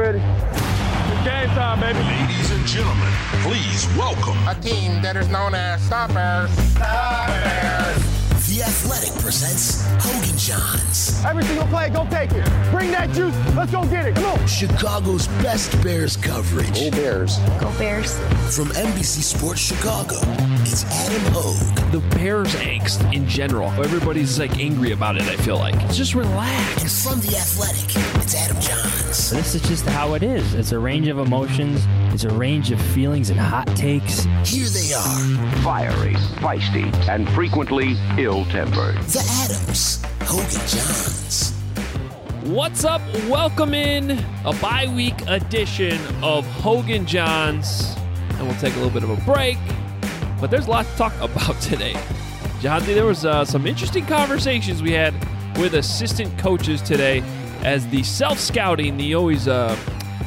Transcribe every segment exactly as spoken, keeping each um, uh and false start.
ready. It's game time, baby. Ladies and gentlemen, please welcome a team that is known as Stoppers. Stoppers. The Athletic presents Hogan Johns. Every single play, go take it. Bring that juice. Let's go get it. Come on. Chicago's best Bears coverage. Go Bears. Go Bears. From N B C Sports Chicago, it's Adam Hogue. The Bears angst in general. Everybody's like angry about it, I feel like. Just relax. And from The Athletic, it's Adam Johns. This is just how it is. It's a range of emotions. It's a range of feelings and hot takes. Here they are. Fiery, feisty, and frequently ill-tempered. The Adams. Hogan Johns. What's up? Welcome in a bye-week edition of Hogan Johns. And we'll take a little bit of a break. But there's a lot to talk about today. Johnsy, there was uh, some interesting conversations we had with assistant coaches today as the self-scouting, the always, uh,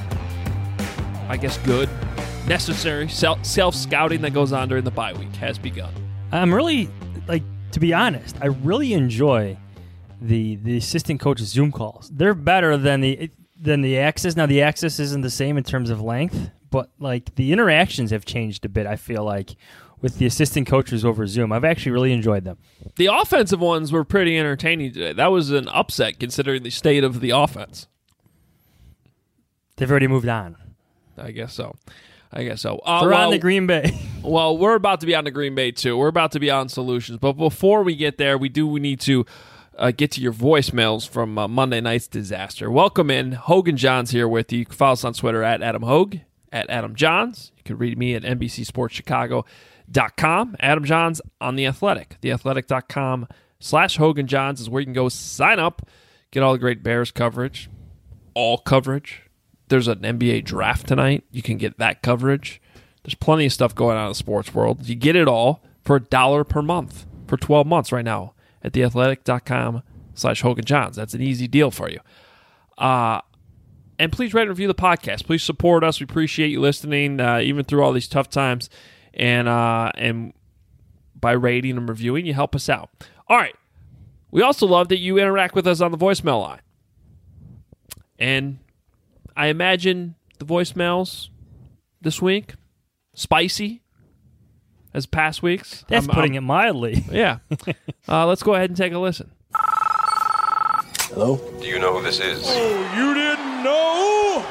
I guess, good, necessary self-scouting that goes on during the bye week has begun. I'm really, like, to be honest, I really enjoy the the assistant coaches' Zoom calls. They're better than the than the Access. Now, the Access isn't the same in terms of length, but, like, the interactions have changed a bit, I feel like, with the assistant coaches over Zoom. I've actually really enjoyed them. The offensive ones were pretty entertaining today. That was an upset considering the state of the offense. They've already moved on. I guess so. I guess so. Uh, They're well, on the Green Bay. Well, we're about to be on the Green Bay, too. We're about to be on Solutions. But before we get there, we do we need to uh, get to your voicemails from uh, Monday night's disaster. Welcome in. Hogan Johns here with you. You can follow us on Twitter at Adam Hogue, at Adam Johns. You can read me at N B C Sports Chicago dot com. Adam Johns on The Athletic. The Athletic dot com slash Hogan Johns is where you can go sign up, get all the great Bears coverage, all coverage. There's an N B A draft tonight. You can get that coverage. There's plenty of stuff going on in the sports world. You get it all for a dollar per month for twelve months right now at The Athletic dot com slash Hogan Johns. That's an easy deal for you. Uh, and please rate and review the podcast. Please support us. We appreciate you listening, uh, even through all these tough times. And uh, and by rating and reviewing, you help us out. All right. We also love that you interact with us on the voicemail line. And I imagine the voicemails this week, spicy as past weeks. That's I'm, putting I'm, it mildly. Yeah. uh, let's go ahead and take a listen. Hello? Do you know who this is? Oh, you didn't know?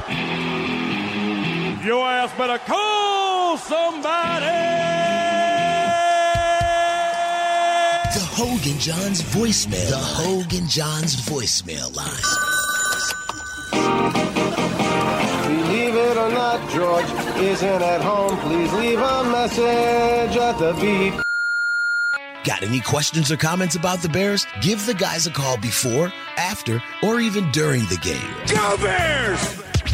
Your ass better call somebody. The Hogan Johns voicemail. The Hogan Johns voicemail line. Believe it or not, George isn't at home. Please leave a message at the beep. Got any questions or comments about the Bears? Give the guys a call before, after, or even during the game. Go Bears!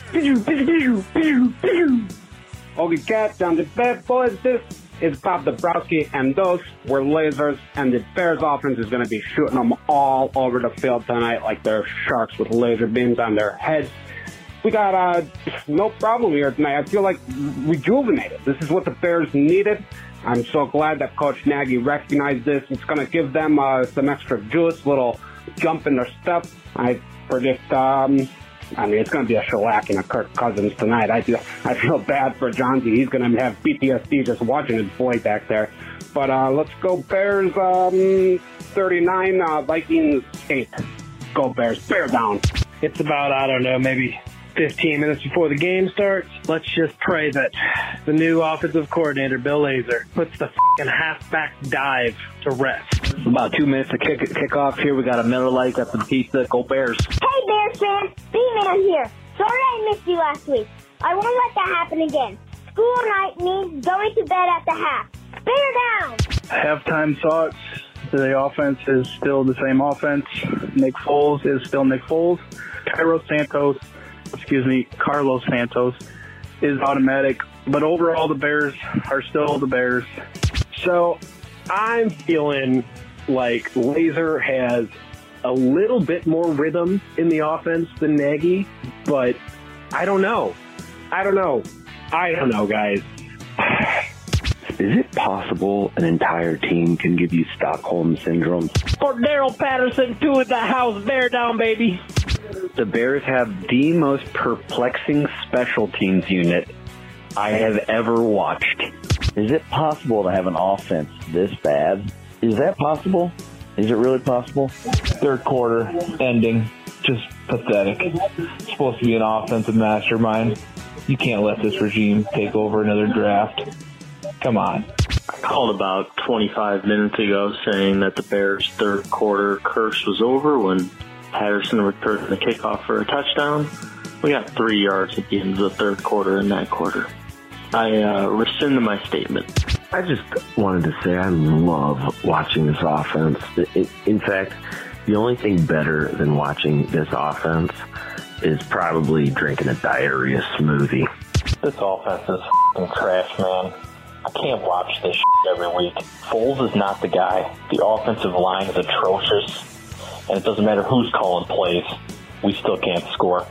Hogan Cats on the bad boys. This is Bob Dabrowski, and those were lasers, and the Bears offense is going to be shooting them all over the field tonight like they're sharks with laser beams on their heads. We got uh, no problem here tonight. I feel like rejuvenated. This is what the Bears needed. I'm so glad that Coach Nagy recognized this. It's going to give them uh, some extra juice, little jump in their step. I predict, um, I mean, it's going to be a shellacking of Kirk Cousins tonight. I feel, I feel bad for Johnsy. He's going to have P T S D just watching his boy back there. But uh, let's go Bears um, thirty-nine, uh, Vikings eight. Go Bears. Bear down. It's about, I don't know, maybe fifteen minutes before the game starts. Let's just pray that the new offensive coordinator, Bill Lazor, puts the f***ing halfback dive to rest. About two minutes to kick kick off here. We got a Miller Lite, got some pizza. Go Bears. Hey, Bears fans. B-Man here. Sorry I missed you last week. I won't let that happen again. School night means going to bed at the half. Bear down. Halftime thoughts. The offense is still the same offense. Nick Foles is still Nick Foles. Cairo Santos excuse me, Carlos Santos is automatic. But overall, the Bears are still the Bears. So I'm feeling like Lazor has a little bit more rhythm in the offense than Nagy, but I don't know. I don't know. I don't know, guys. Is it possible an entire team can give you Stockholm Syndrome? Cordero Patterson, two at the house. Bear down, baby. The Bears have the most perplexing special teams unit I have ever watched. Is it possible to have an offense this bad? Is that possible? Is it really possible? Third quarter ending. Just pathetic. It's supposed to be an offensive mastermind. You can't let this regime take over another draft. Come on. I called about twenty-five minutes ago saying that the Bears' third quarter curse was over when Patterson returned the kickoff for a touchdown. We got three yards at the end of the third quarter in that quarter. I uh, rescind my statement. I just wanted to say I love watching this offense. It, it, in fact, the only thing better than watching this offense is probably drinking a diarrhea smoothie. This offense is f***ing trash, man. I can't watch this shit every week. Foles is not the guy. The offensive line is atrocious. And it doesn't matter who's calling plays. We still can't score.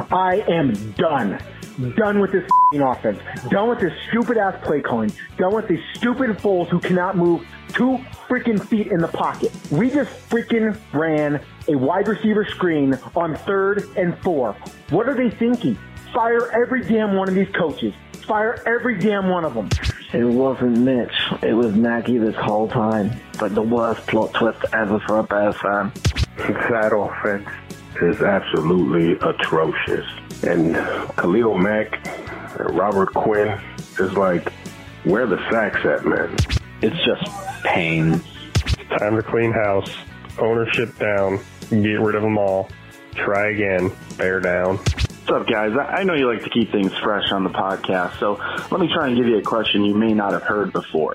I am done. Done with this f***ing offense. Done with this stupid-ass play calling. Done with these stupid Foles who cannot move two freaking feet in the pocket. We just freaking ran a wide receiver screen on third and four. What are they thinking? Fire every damn one of these coaches. Fire every damn one of them. It wasn't Mitch. It was Nagy this whole time. But the worst plot twist ever for a Bears fan. That offense is absolutely atrocious. And Khalil Mack and Robert Quinn is like, where the sacks at, man? It's just pain. Time to clean house. Ownership down. Get rid of them all. Try again. Bear down. What's up, guys? I know you like to keep things fresh on the podcast, so let me try and give you a question you may not have heard before.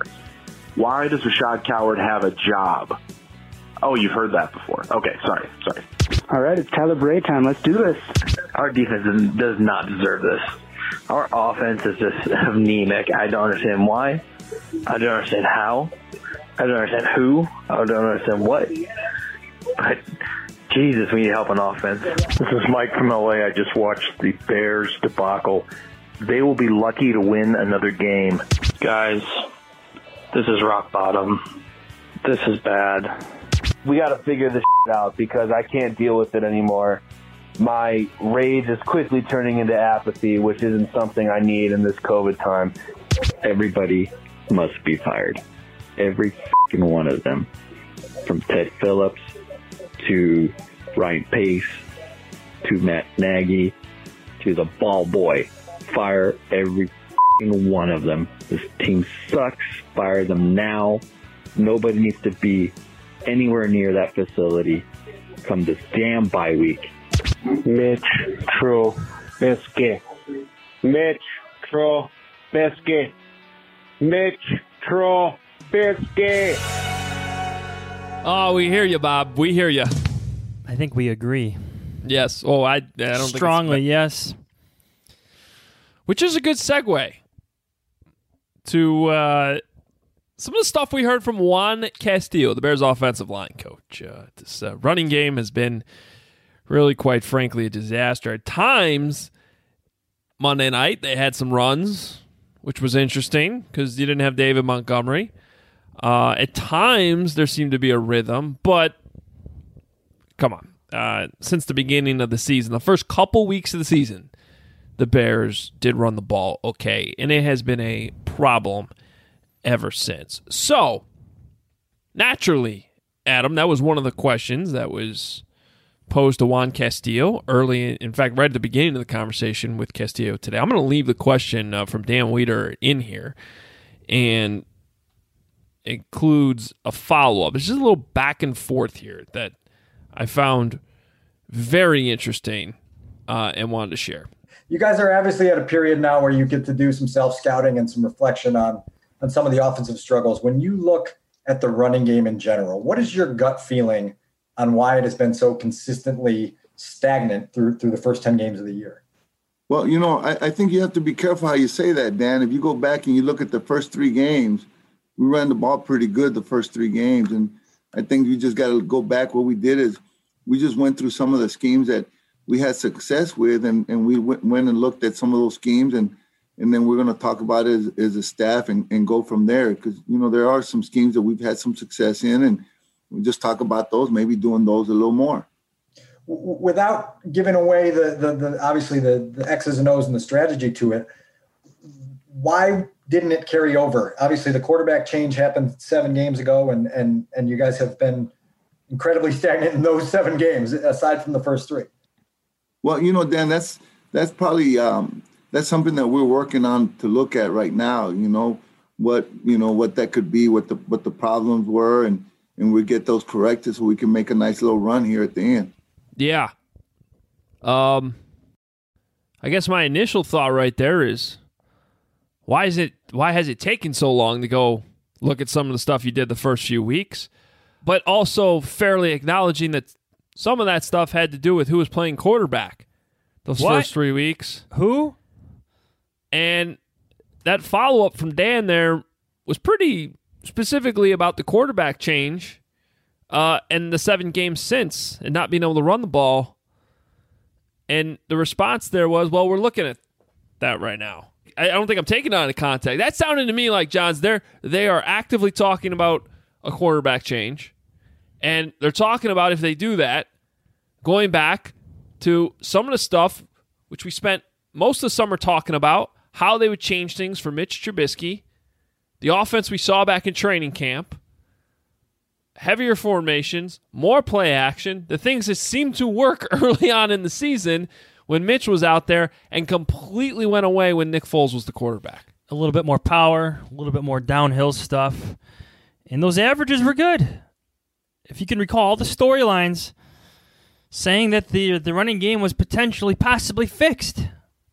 Why does Rashad Coward have a job? Oh, you've heard that before. Okay, sorry, sorry. All right, it's Tyler Bray time. Let's do this. Our defense does not deserve this. Our offense is just anemic. I don't understand why. I don't understand how. I don't understand who. I don't understand what. But Jesus, we need help on offense. This is Mike from L A. I just watched the Bears debacle. They will be lucky to win another game. Guys, this is rock bottom. This is bad. We got to figure this shit out because I can't deal with it anymore. My rage is quickly turning into apathy, which isn't something I need in this COVID time. Everybody must be fired. Every fucking one of them. From Ted Phillips to Ryan Pace to Matt Nagy to the ball boy. Fire every fucking one of them. This team sucks. Fire them now. Nobody needs to be anywhere near that facility come this damn bye week. Mitch Trubisky. Mitch Trubisky. Mitch Trubisky. Oh, we hear you, Bob. We hear you. I think we agree. Yes. Oh, I, I don't strongly think yes. Which is a good segue to uh, some of the stuff we heard from Juan Castillo, the Bears' offensive line coach. Uh, this uh, running game has been really, quite frankly, a disaster. At times, Monday night, they had some runs, which was interesting because you didn't have David Montgomery. Uh, at times, there seemed to be a rhythm, but come on. Uh, since the beginning of the season, the first couple weeks of the season, the Bears did run the ball okay, and it has been a problem ever since. So, naturally, Adam, that was one of the questions that was posed to Juan Castillo early, in fact, right at the beginning of the conversation with Castillo today. I'm going to leave the question uh, from Dan Weeder in here, and includes a follow-up. It's just a little back and forth here that I found very interesting uh, and wanted to share. You guys are obviously at a period now where you get to do some self-scouting and some reflection on, on some of the offensive struggles. When you look at the running game in general, what is your gut feeling on why it has been so consistently stagnant through through the first ten games of the year? Well, you know, I, I think you have to be careful how you say that, Dan. If you go back and you look at the first three games, we ran the ball pretty good the first three games. And I think you just got to go back. What we did is we just went through some of the schemes that we had success with, and, and we went, went and looked at some of those schemes and and then we're going to talk about it as, as a staff and, and go from there. Because, you know, there are some schemes that we've had some success in, and we just talk about those, maybe doing those a little more. Without giving away the, the, the obviously the, the X's and O's and the strategy to it, why didn't it carry over? Obviously, the quarterback change happened seven games ago, and and and you guys have been incredibly stagnant in those seven games, aside from the first three. Well, you know, Dan, that's that's probably um, that's something that we're working on to look at right now. You know, what you know what that could be, what the what the problems were, and and we get those corrected so we can make a nice little run here at the end. Yeah. Um, I guess my initial thought right there is, why is it? Why has it taken so long to go look at some of the stuff you did the first few weeks? But also fairly acknowledging that some of that stuff had to do with who was playing quarterback those What? first three weeks. Who? And that follow-up from Dan there was pretty specifically about the quarterback change uh, and the seven games since and not being able to run the ball. And the response there was, well, we're looking at that right now. I don't think I'm taking it out of context. That sounded to me like, Johns, they're, they are actively talking about a quarterback change. And they're talking about, if they do that, going back to some of the stuff which we spent most of the summer talking about, how they would change things for Mitch Trubisky, the offense we saw back in training camp, heavier formations, more play action, the things that seemed to work early on in the season when Mitch was out there and completely went away when Nick Foles was the quarterback. A little bit more power, a little bit more downhill stuff. And those averages were good. If you can recall the storylines saying that the the running game was potentially, possibly fixed.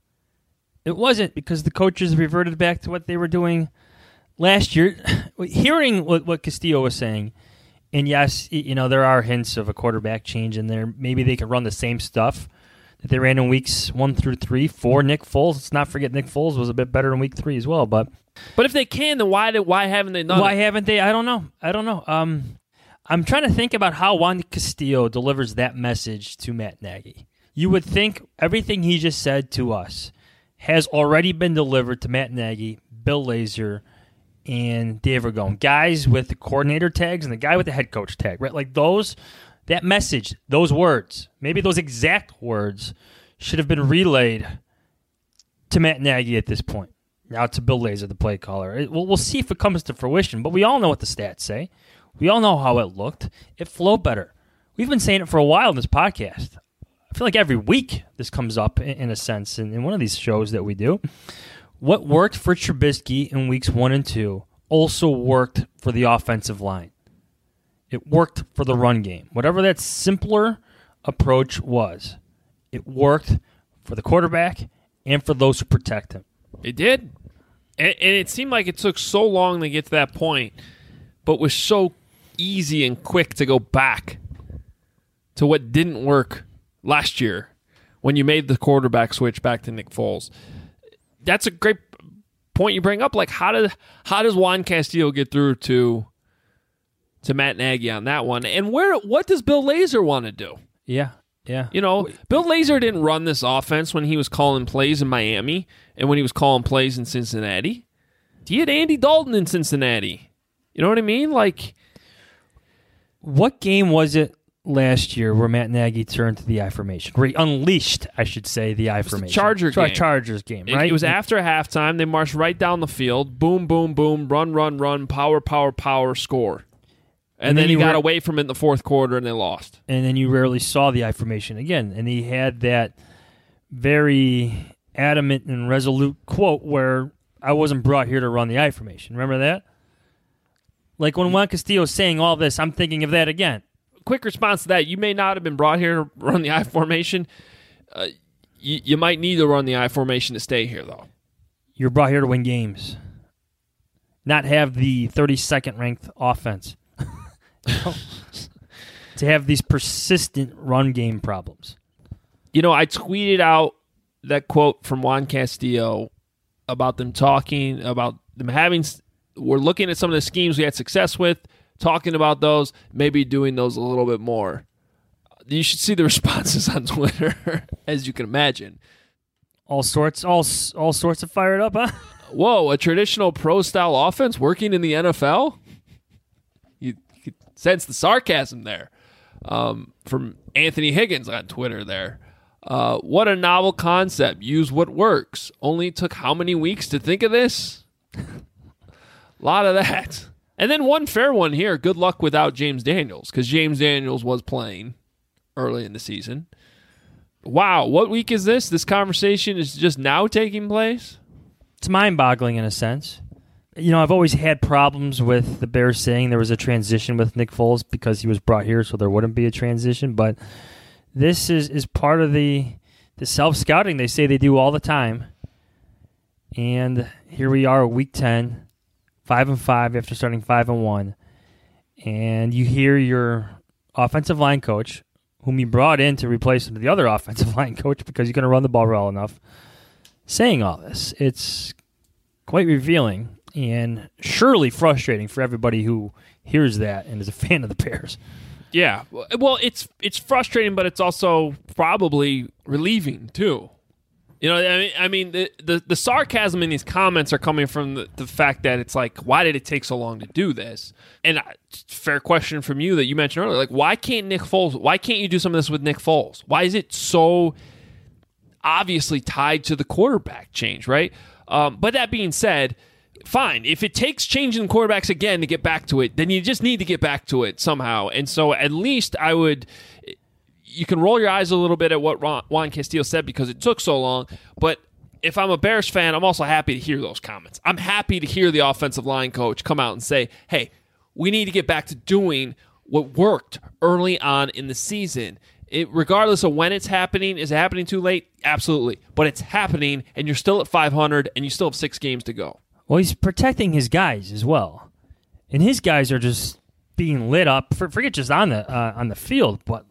It wasn't, because the coaches reverted back to what they were doing last year. Hearing what, what Castillo was saying, and yes, you know, there are hints of a quarterback change in there. Maybe they could run the same stuff that they ran in weeks one through three for Nick Foles. Let's not forget Nick Foles was a bit better in week three as well. But but if they can, then why did, why haven't they done why it? Why haven't they? I don't know. I don't know. Um, I'm trying to think about how Juan Castillo delivers that message to Matt Nagy. You would think everything he just said to us has already been delivered to Matt Nagy, Bill Lazor, and Dave Ragone. Guys with the coordinator tags and the guy with the head coach tag, right? Like those, that message, those words, maybe those exact words should have been relayed to Matt Nagy at this point. Now to Bill Lazor, the play caller. It, we'll, we'll see if it comes to fruition, but we all know what the stats say. We all know how it looked. It flowed better. We've been saying it for a while in this podcast. I feel like every week this comes up in, in a sense in, in one of these shows that we do. What worked for Trubisky in weeks one and two also worked for the offensive line. It worked for the run game. Whatever that simpler approach was, it worked for the quarterback and for those who protect him. It did. And, and it seemed like it took so long to get to that point, but was so easy and quick to go back to what didn't work last year when you made the quarterback switch back to Nick Foles. That's a great point you bring up. Like, how does how does Juan Castillo get through to to Matt Nagy on that one? And where what does Bill Lazor want to do? Yeah, yeah. You know, Bill Lazor didn't run this offense when he was calling plays in Miami and when he was calling plays in Cincinnati. He had Andy Dalton in Cincinnati. You know what I mean? Like, what game was it last year where Matt Nagy turned to the I formation? Where he unleashed, I should say, the I formation. The Charger Sorry, game. Chargers game, right? It, it was after halftime. They marched right down the field. Boom, boom, boom. Run, run, run. Power, power, power. Score. And, And then, then he you got ra- away from it in the fourth quarter, and they lost. And then you rarely saw the I formation again. And he had that very adamant and resolute quote where I wasn't brought here to run the I formation. Remember that? Like when Juan Castillo is saying all this, I'm thinking of that again. Quick response to that. You may not have been brought here to run the I formation. Uh, you, you might need to run the I formation to stay here, though. You're brought here to win games, not have the thirty-second ranked offense. To have these persistent run game problems. You know, I tweeted out that quote from Juan Castillo about them talking, about them having, we're looking at some of the schemes we had success with, talking about those, maybe doing those a little bit more. You should see the responses on Twitter, as you can imagine. all sorts, all all sorts of fired up, huh? Whoa, a traditional pro-style offense working in the N F L? You, you could sense the sarcasm there um, from Anthony Higgins on Twitter there. Uh, what a novel concept. Use what works. Only took how many weeks to think of this? A lot of that. And then one fair one here. Good luck without James Daniels, because James Daniels was playing early in the season. Wow, what week is this? This conversation is just now taking place? It's mind-boggling in a sense. You know, I've always had problems with the Bears saying there was a transition with Nick Foles because he was brought here so there wouldn't be a transition, but this is, is part of the the self-scouting they say they do all the time. And here we are, week ten, five and five after starting five and one. And you hear your offensive line coach, whom you brought in to replace the other offensive line coach because you're going to run the ball well enough, saying all this. It's quite revealing and surely frustrating for everybody who hears that and is a fan of the Bears. Yeah, well, it's it's frustrating, but it's also probably relieving too. You know, I mean, I mean, the the, the sarcasm in these comments are coming from the, the fact that it's like, why did it take so long to do this? And uh, fair question from you that you mentioned earlier, like, why can't Nick Foles? Why can't you do some of this with Nick Foles? Why is it so obviously tied to the quarterback change, right? Um, but that being said, fine. If it takes changing quarterbacks again to get back to it, then you just need to get back to it somehow. And so at least I would, you can roll your eyes a little bit at what Ron, Juan Castillo said because it took so long. But if I'm a Bears fan, I'm also happy to hear those comments. I'm happy to hear the offensive line coach come out and say, hey, we need to get back to doing what worked early on in the season. It, regardless of when it's happening, is it happening too late? Absolutely. But it's happening, and you're still at five hundred, and you still have six games to go. Well, he's protecting his guys as well. And his guys are just being lit up, for, forget just on the uh, on the field, but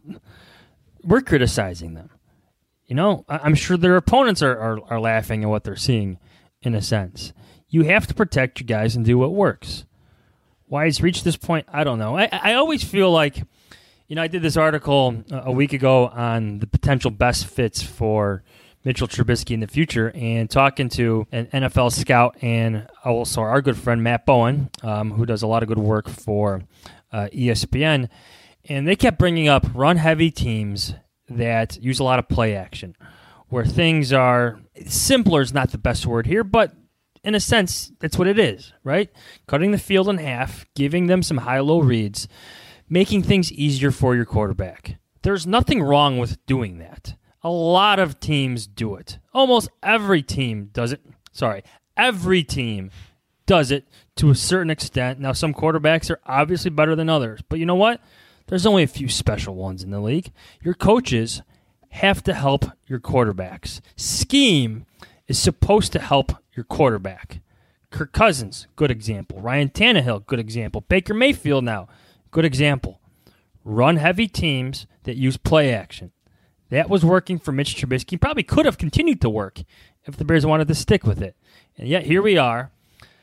we're criticizing them. You know, I'm sure their opponents are, are, are laughing at what they're seeing, in a sense. You have to protect your guys and do what works. Why it's reached this point, I don't know. I, I always feel like, you know, I did this article a week ago on the potential best fits for Mitchell Trubisky in the future, and talking to an N F L scout and also our good friend Matt Bowen, um, who does a lot of good work for uh, E S P N, and they kept bringing up run-heavy teams that use a lot of play action, where things are simpler is not the best word here, but in a sense, that's what it is, right? Cutting the field in half, giving them some high-low reads, making things easier for your quarterback. There's nothing wrong with doing that. A lot of teams do it. Almost every team does it. Sorry, every team does it to a certain extent. Now, some quarterbacks are obviously better than others, but you know what? There's only a few special ones in the league. Your coaches have to help your quarterbacks. Scheme is supposed to help your quarterback. Kirk Cousins, good example. Ryan Tannehill, good example. Baker Mayfield now, good example. Run-heavy teams that use play action. That was working for Mitch Trubisky. Probably could have continued to work if the Bears wanted to stick with it. And yet here we are,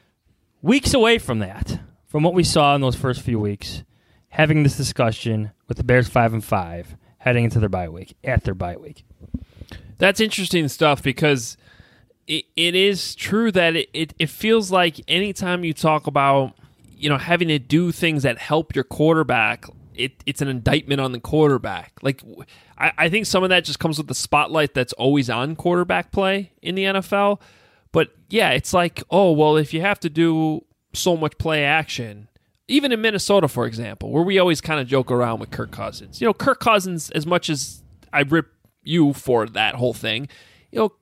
weeks away from that, from what we saw in those first few weeks, having this discussion with the Bears five and five, heading into their bye week, at their bye week. That's interesting stuff because it, it is true that it, it, it feels like anytime you talk about, you know, having to do things that help your quarterback, it, it's an indictment on the quarterback. Like, I, I think some of that just comes with the spotlight that's always on quarterback play in the N F L. But yeah, it's like, oh, well, if you have to do so much play action, even in Minnesota, for example, where we always kind of joke around with Kirk Cousins. You know, Kirk Cousins, as much as I rip you for that whole thing, you know,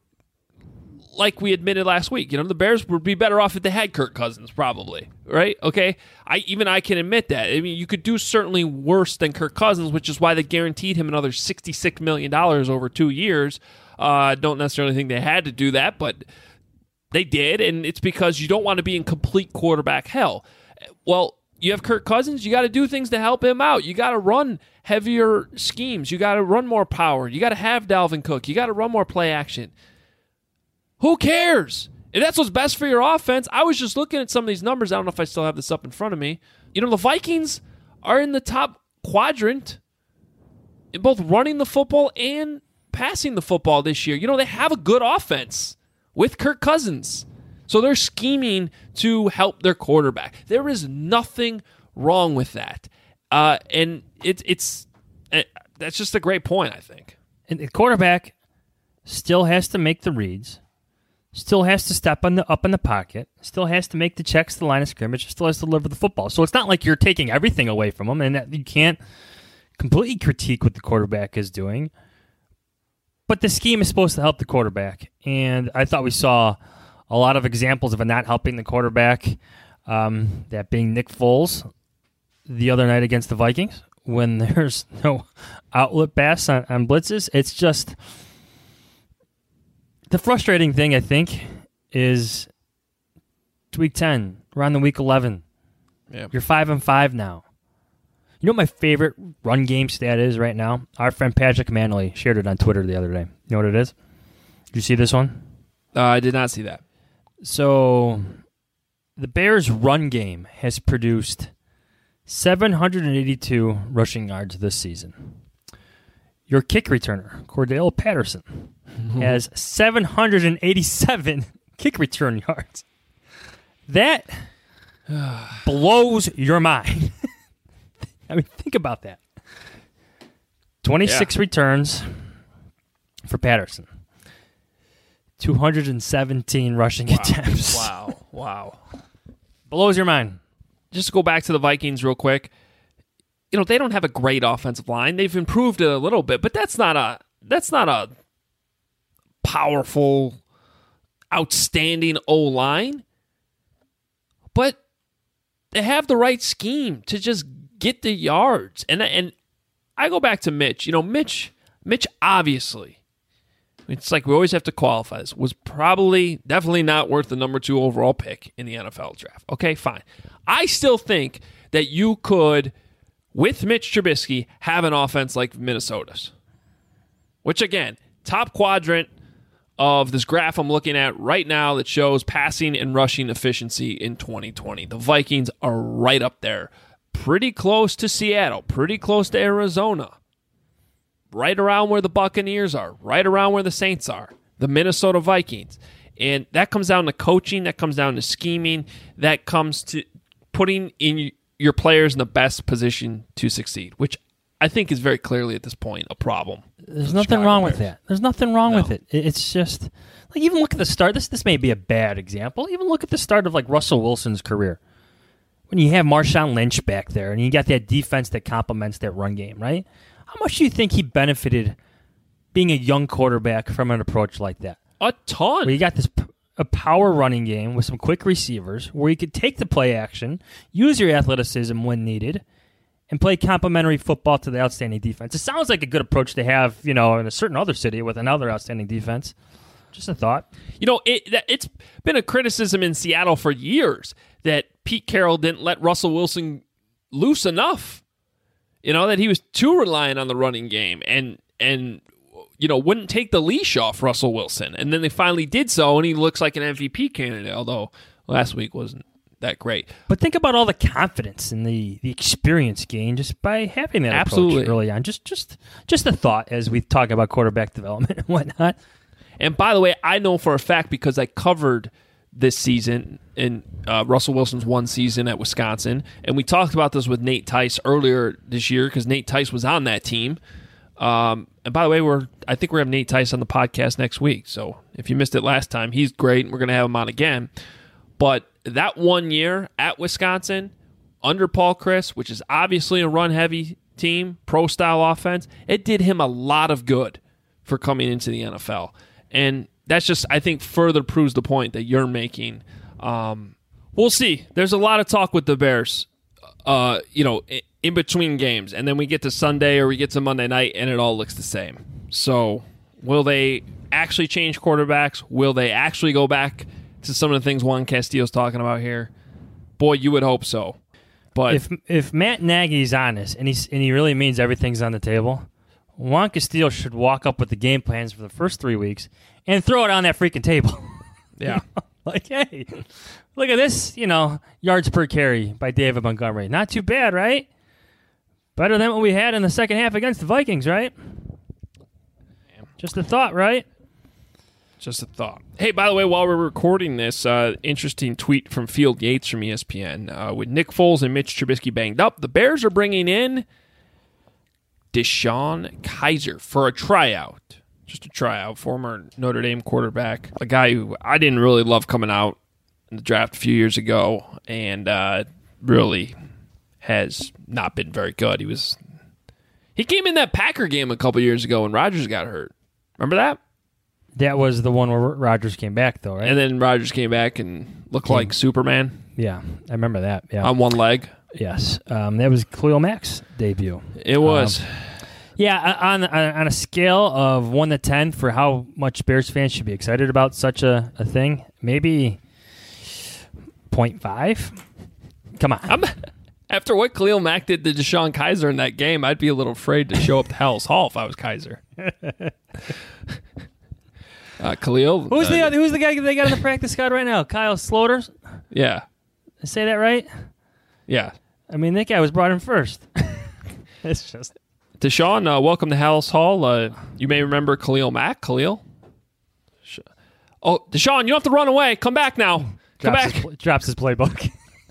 like we admitted last week, you know, the Bears would be better off if they had Kirk Cousins, probably, right? Okay, I even I can admit that. I mean, you could do certainly worse than Kirk Cousins, which is why they guaranteed him another sixty-six million dollars over two years. I uh, don't necessarily think they had to do that, but they did, and it's because you don't want to be in complete quarterback hell. Well, you have Kirk Cousins, you got to do things to help him out. You got to run heavier schemes. You got to run more power. You got to have Dalvin Cook. You got to run more play action. Who cares? If that's what's best for your offense, I was just looking at some of these numbers. I don't know if I still have this up in front of me. You know, the Vikings are in the top quadrant in both running the football and passing the football this year. You know, they have a good offense with Kirk Cousins. So they're scheming to help their quarterback. There is nothing wrong with that. Uh, and it, it's it, that's just a great point, I think. And the quarterback still has to make the reads, still has to step on the, up in the pocket, still has to make the checks to the line of scrimmage, still has to deliver the football. So it's not like you're taking everything away from him, and that you can't completely critique what the quarterback is doing. But the scheme is supposed to help the quarterback, and I thought we saw a lot of examples of it not helping the quarterback, um, that being Nick Foles the other night against the Vikings when there's no outlet pass on, on blitzes. It's just the frustrating thing, I think, is week ten. We're on the week eleven. Yeah. You're five and five now. You know what my favorite run game stat is right now? Our friend Patrick Manley shared it on Twitter the other day. You know what it is? Did you see this one? Uh, I did not see that. So the Bears' run game has produced seven hundred eighty-two rushing yards this season. Your kick returner, Cordell Patterson, mm-hmm. has seven hundred eighty-seven kick return yards. That blows your mind. I mean, think about that. twenty-six yeah. returns for Patterson. two hundred seventeen rushing wow. attempts. Wow. Wow. Blows your mind. Just to go back to the Vikings real quick. You know, they don't have a great offensive line. They've improved it a little bit, but that's not a that's not a powerful, outstanding O-line. But they have the right scheme to just get the yards. And and I go back to Mitch. You know, Mitch Mitch obviously, it's like we always have to qualify this, was probably definitely not worth the number two overall pick in the N F L draft. Okay, fine. I still think that you could, with Mitch Trubisky, have an offense like Minnesota's. Which, again, top quadrant of this graph I'm looking at right now that shows passing and rushing efficiency in twenty twenty. The Vikings are right up there. Pretty close to Seattle. Pretty close to Arizona. Right around where the Buccaneers are. Right around where the Saints are. The Minnesota Vikings. And that comes down to coaching. That comes down to scheming. That comes to putting in your players in the best position to succeed, which I think is very clearly at this point a problem. There's nothing wrong with that. There's nothing wrong with it. It's just, like, even look at the start. This this may be a bad example. Even look at the start of, like, Russell Wilson's career. When you have Marshawn Lynch back there and you got that defense that complements that run game, right? How much do you think he benefited being a young quarterback from an approach like that? A ton. Where you got this a power running game with some quick receivers where you could take the play action, use your athleticism when needed, and play complementary football to the outstanding defense. It sounds like a good approach to have, you know, in a certain other city with another outstanding defense. Just a thought. You know, it, it's been a criticism in Seattle for years that Pete Carroll didn't let Russell Wilson loose enough. You know, that he was too reliant on the running game and, and you know, wouldn't take the leash off Russell Wilson. And then they finally did so, and he looks like an M V P candidate, although last week wasn't that great. But think about all the confidence and the, the experience gained just by having that Absolutely. approach early on. Just, just, just a thought as we talk about quarterback development and whatnot. And by the way, I know for a fact because I covered this season in uh, Russell Wilson's one season at Wisconsin, and we talked about this with Nate Tice earlier this year because Nate Tice was on that team. Um, and by the way, we're I think we're having Nate Tice on the podcast next week. So if you missed it last time, he's great, and we're going to have him on again. But that one year at Wisconsin, under Paul Chryst, which is obviously a run-heavy team, pro-style offense, it did him a lot of good for coming into the N F L. And that's just, I think, further proves the point that you're making. Um, we'll see. There's a lot of talk with the Bears, uh, you know, in, in between games. And then we get to Sunday or we get to Monday night, and it all looks the same. So will they actually change quarterbacks? Will they actually go back to some of the things Juan Castillo's talking about here? Boy, you would hope so. But if if Matt Nagy's honest and he's and he really means everything's on the table, Juan Castillo should walk up with the game plans for the first three weeks and throw it on that freaking table. Yeah. You know? Like, hey, look at this, you know, yards per carry by David Montgomery. Not too bad, right? Better than what we had in the second half against the Vikings, right? Just a thought, right? Just a thought. Hey, by the way, while we're recording this, uh, interesting tweet from Field Yates from E S P N. Uh, with Nick Foles and Mitch Trubisky banged up, the Bears are bringing in Deshaun Kaiser for a tryout. Just a tryout. Former Notre Dame quarterback. A guy who I didn't really love coming out in the draft a few years ago, and uh, really has not been very good. He was he came in that Packer game a couple years ago when Rodgers got hurt. Remember that? That was the one where Rodgers came back, though, right? And then Rodgers came back and looked Came- like Superman. Yeah, I remember that. Yeah, On one leg. Yes, um, that was Khalil Mack's debut. It was. Um, yeah, on on a scale of one to ten for how much Bears fans should be excited about such a, a thing, maybe point five. Come on. I'm, after what Khalil Mack did to Deshaun Kaiser in that game, I'd be a little afraid to show up to Hell's Hall if I was Kaiser. uh, Khalil. Who's uh, the other, who's the guy they got in the practice squad right now? Kyle Slaughter. Yeah. Did I say that right? Yeah. I mean, that guy was brought in first. It's just Deshaun, uh, welcome to Hell's Hall. Uh, you may remember Khalil Mack. Khalil. Sh- Oh, Deshaun, you don't have to run away. Come back now. Come drops back. His, pl- drops his playbook.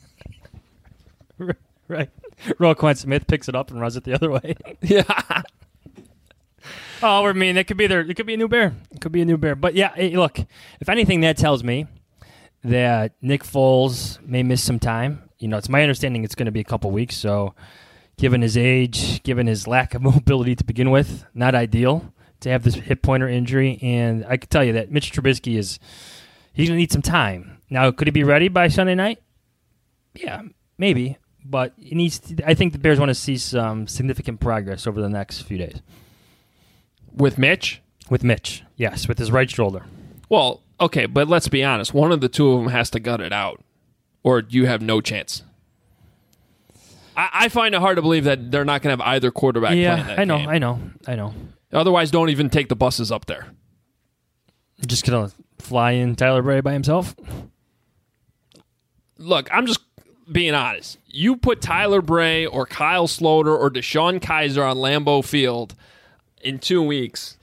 Right. Roquan Smith picks it up and runs it the other way. Yeah. Oh, I mean, it could be there. It could be a new bear. It could be a new bear. But yeah, hey, look. If anything, that tells me that Nick Foles may miss some time. You know, it's my understanding it's going to be a couple weeks. So, given his age, given his lack of mobility to begin with, not ideal to have this hip pointer injury. And I can tell you that Mitch Trubisky is he's going to need some time. Now, could he be ready by Sunday night? Yeah, maybe. But he needs. To, I think the Bears want to see some significant progress over the next few days. With Mitch? With Mitch, yes, with his right shoulder. Well, okay, but let's be honest. One of the two of them has to gut it out, or you have no chance. I, I find it hard to believe that they're not going to have either quarterback Yeah, playing that I know, game. I know, I know. Otherwise, don't even take the buses up there. Just going to fly in Tyler Bray by himself? Look, I'm just being honest. You put Tyler Bray or Kyle Sloter or Deshaun Kaiser on Lambeau Field in two weeks,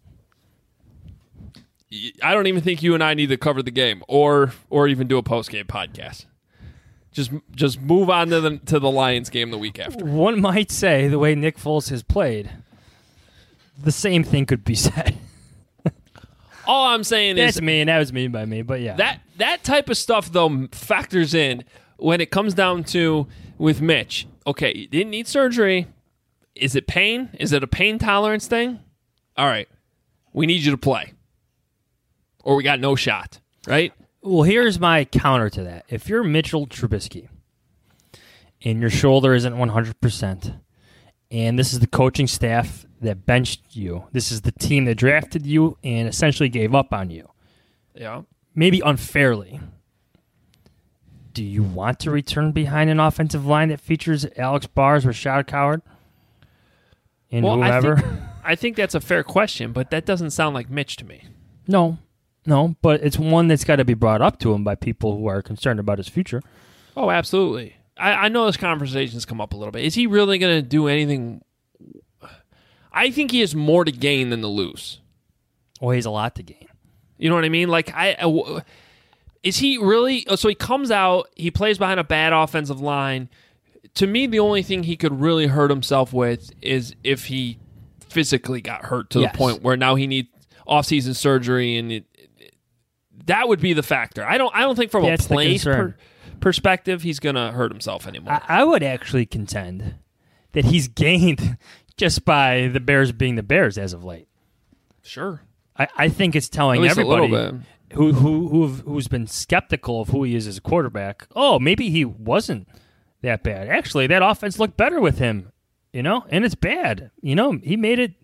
I don't even think you and I need to cover the game or or even do a post-game podcast. Just just move on to the to the Lions game the week after. One might say, the way Nick Foles has played, the same thing could be said. All I'm saying is That's me, and that was me by me, but yeah. that that type of stuff though factors in when it comes down to with Mitch. Okay, you didn't need surgery. Is it pain? Is it a pain tolerance thing? All right, we need you to play, or we got no shot. Right? Well, here's my counter to that. If you're Mitchell Trubisky and your shoulder isn't one hundred percent, and this is the coaching staff that benched you, this is the team that drafted you and essentially gave up on you, Yeah. maybe unfairly, do you want to return behind an offensive line that features Alex Bars, Rashad Coward, and well, whoever? I think, I think that's a fair question, but that doesn't sound like Mitch to me. No. No, but it's one that's got to be brought up to him by people who are concerned about his future. Oh, absolutely. I, I know this conversation's come up a little bit. Is he really going to do anything? I think he has more to gain than to lose. Well, he has a lot to gain. You know what I mean? Like, I, I is he really? So he comes out, he plays behind a bad offensive line. To me, the only thing he could really hurt himself with is if he physically got hurt to Yes. the point where now he needs off-season surgery, and it, it, that would be the factor. I don't. I don't think from That's a the play concern. per, perspective, he's going to hurt himself anymore. I, I would actually contend that he's gained just by the Bears being the Bears as of late. Sure. I, I think it's telling At least a little everybody bit. who who who've, who's been skeptical of who he is as a quarterback. Oh, maybe he wasn't that bad. Actually, that offense looked better with him, you know, and it's bad. You know, he made it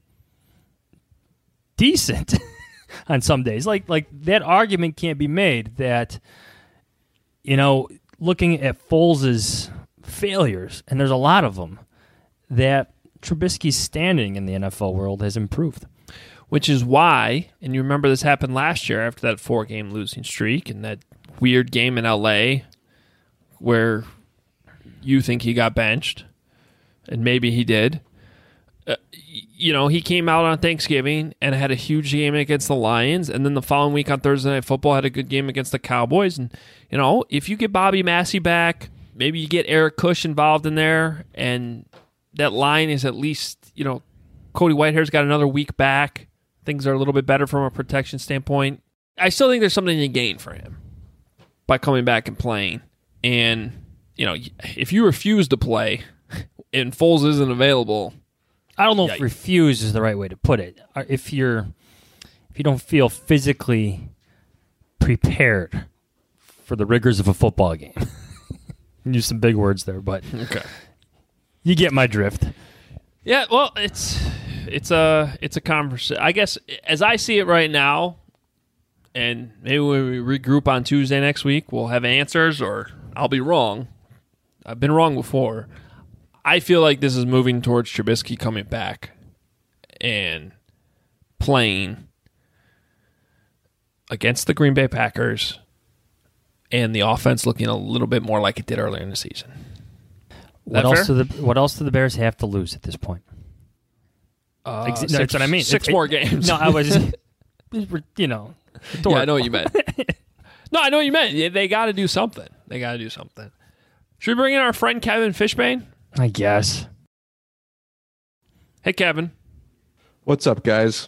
decent on some days. Like like that argument can't be made that, you know, looking at Foles' failures, and there's a lot of them, that Trubisky's standing in the N F L world has improved. Which is why, and you remember this happened last year after that four-game losing streak and that weird game in L A where you think he got benched, and maybe he did. uh, you know, he came out on Thanksgiving and had a huge game against the Lions, and then the following week on Thursday Night Football had a good game against the Cowboys. And, you know, if you get Bobby Massey back, maybe you get Eric Kush involved in there, and that line is at least, you know, Cody Whitehair's got another week back. Things are a little bit better from a protection standpoint. I still think there's something to gain for him by coming back and playing. And, you know, if you refuse to play and Foles isn't available, I don't know yeah, if refuse is the right way to put it. If you're, if you don't feel physically prepared for the rigors of a football game, use some big words there, but okay, you get my drift. Yeah, well, it's it's a it's a conversation. I guess as I see it right now, and maybe when we regroup on Tuesday next week, we'll have answers, or I'll be wrong. I've been wrong before. I feel like this is moving towards Trubisky coming back and playing against the Green Bay Packers, and the offense looking a little bit more like it did earlier in the season. What that else fair? do the What else do the Bears have to lose at this point? Uh, Ex- no, six, that's what I mean. Six It- more it- games. No, I was, you know, yeah, I know what you meant. No, I know what you meant. Yeah, they got to do something. They got to do something. Should we bring in our friend Kevin Fishbane? I guess. Hey, Kevin. What's up, guys?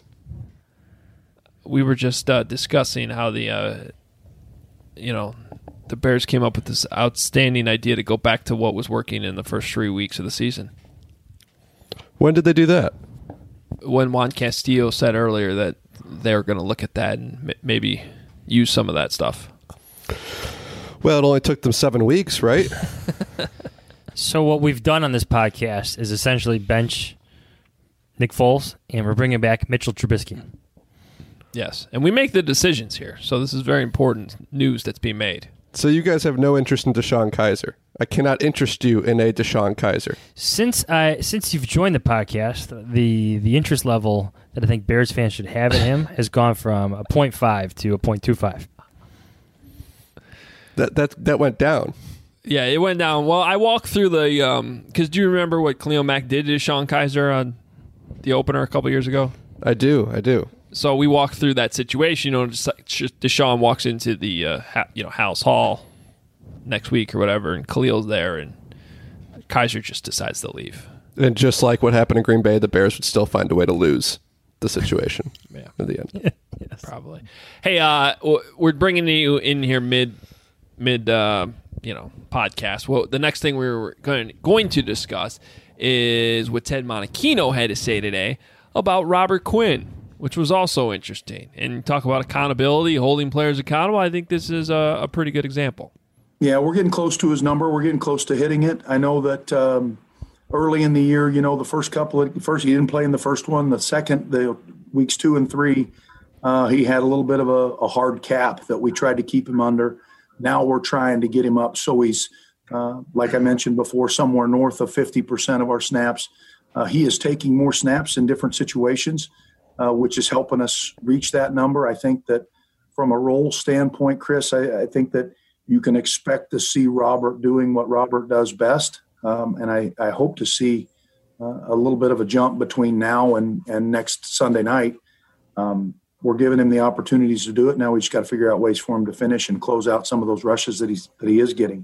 We were just uh, discussing how the, uh, you know, the Bears came up with this outstanding idea to go back to what was working in the first three weeks of the season. When did they do that? When Juan Castillo said earlier that they were going to look at that and m- maybe use some of that stuff. Well, it only took them seven weeks, right? So what we've done on this podcast is essentially bench Nick Foles, and we're bringing back Mitchell Trubisky. Yes, and we make the decisions here, so this is very important news that's being made. So you guys have no interest in Deshaun Kaiser. I cannot interest you in a Deshaun Kaiser. Since I since you've joined the podcast, the the interest level that I think Bears fans should have in him has gone from a point five to a point two five. That that that went down. Yeah, it went down. Well, I walked through the um because do you remember what Khalil Mack did to Deshaun Kaiser on the opener a couple years ago? I do, I do. So we walked through that situation. You know, just like Deshaun walks into the uh, ha- you know House Hall next week or whatever, and Khalil's there, and Kaiser just decides to leave. And just like what happened in Green Bay, the Bears would still find a way to lose the situation. Yeah, in the end, yes. Probably. Hey, uh, we're bringing you in here mid mid uh, you know podcast. Well, the next thing we were going going to discuss is what Ted Monachino had to say today about Robert Quinn, which was also interesting. And talk about accountability, holding players accountable. I think this is a, a pretty good example. Yeah, we're getting close to his number. We're getting close to hitting it. I know that um, early in the year, you know, the first couple of first he didn't play in the first one. The second, the weeks two and three, uh, he had a little bit of a, a hard cap that we tried to keep him under. Now we're trying to get him up so he's, uh, like I mentioned before, somewhere north of fifty percent of our snaps. Uh, he is taking more snaps in different situations, uh, which is helping us reach that number. I think that from a role standpoint, Chris, I, I think that you can expect to see Robert doing what Robert does best. Um, and I, I hope to see uh, a little bit of a jump between now and, and next Sunday night. Um, we're giving him the opportunities to do it. Now we just got to figure out ways for him to finish and close out some of those rushes that he's, that he is getting.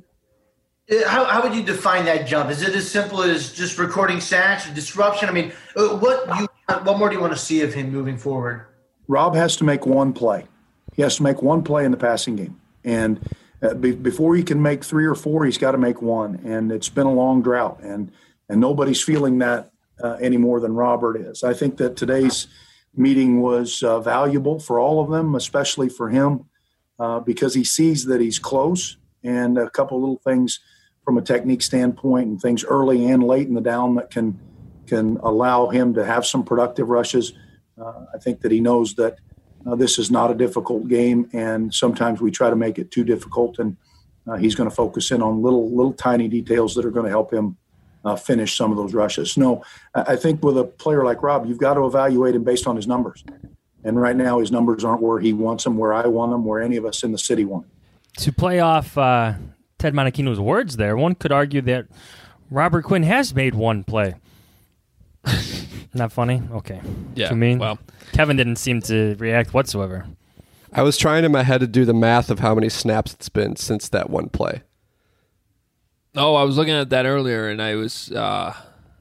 How, how would you define that jump? Is it as simple as just recording sacks or disruption? I mean, what you what more do you want to see of him moving forward? Rob has to make one play. He has to make one play in the passing game. And uh, be, before he can make three or four, he's got to make one. And it's been a long drought. And and nobody's feeling that uh, any more than Robert is. I think that today's meeting was uh, valuable for all of them, especially for him, uh, because he sees that he's close. And a couple little things from a technique standpoint and things early and late in the down that can can allow him to have some productive rushes. Uh, I think that he knows that uh, this is not a difficult game, and sometimes we try to make it too difficult, and uh, he's going to focus in on little little tiny details that are going to help him uh, finish some of those rushes. No, I think with a player like Rob, you've got to evaluate him based on his numbers. And right now his numbers aren't where he wants them, where I want them, where any of us in the city want them. To play off uh, Ted Monachino's words there, one could argue that Robert Quinn has made one play. Not funny? Okay. Yeah, Too mean? well. Kevin didn't seem to react whatsoever. I was trying in my head to do the math of how many snaps it's been since that one play. Oh, I was looking at that earlier, and I was... Uh,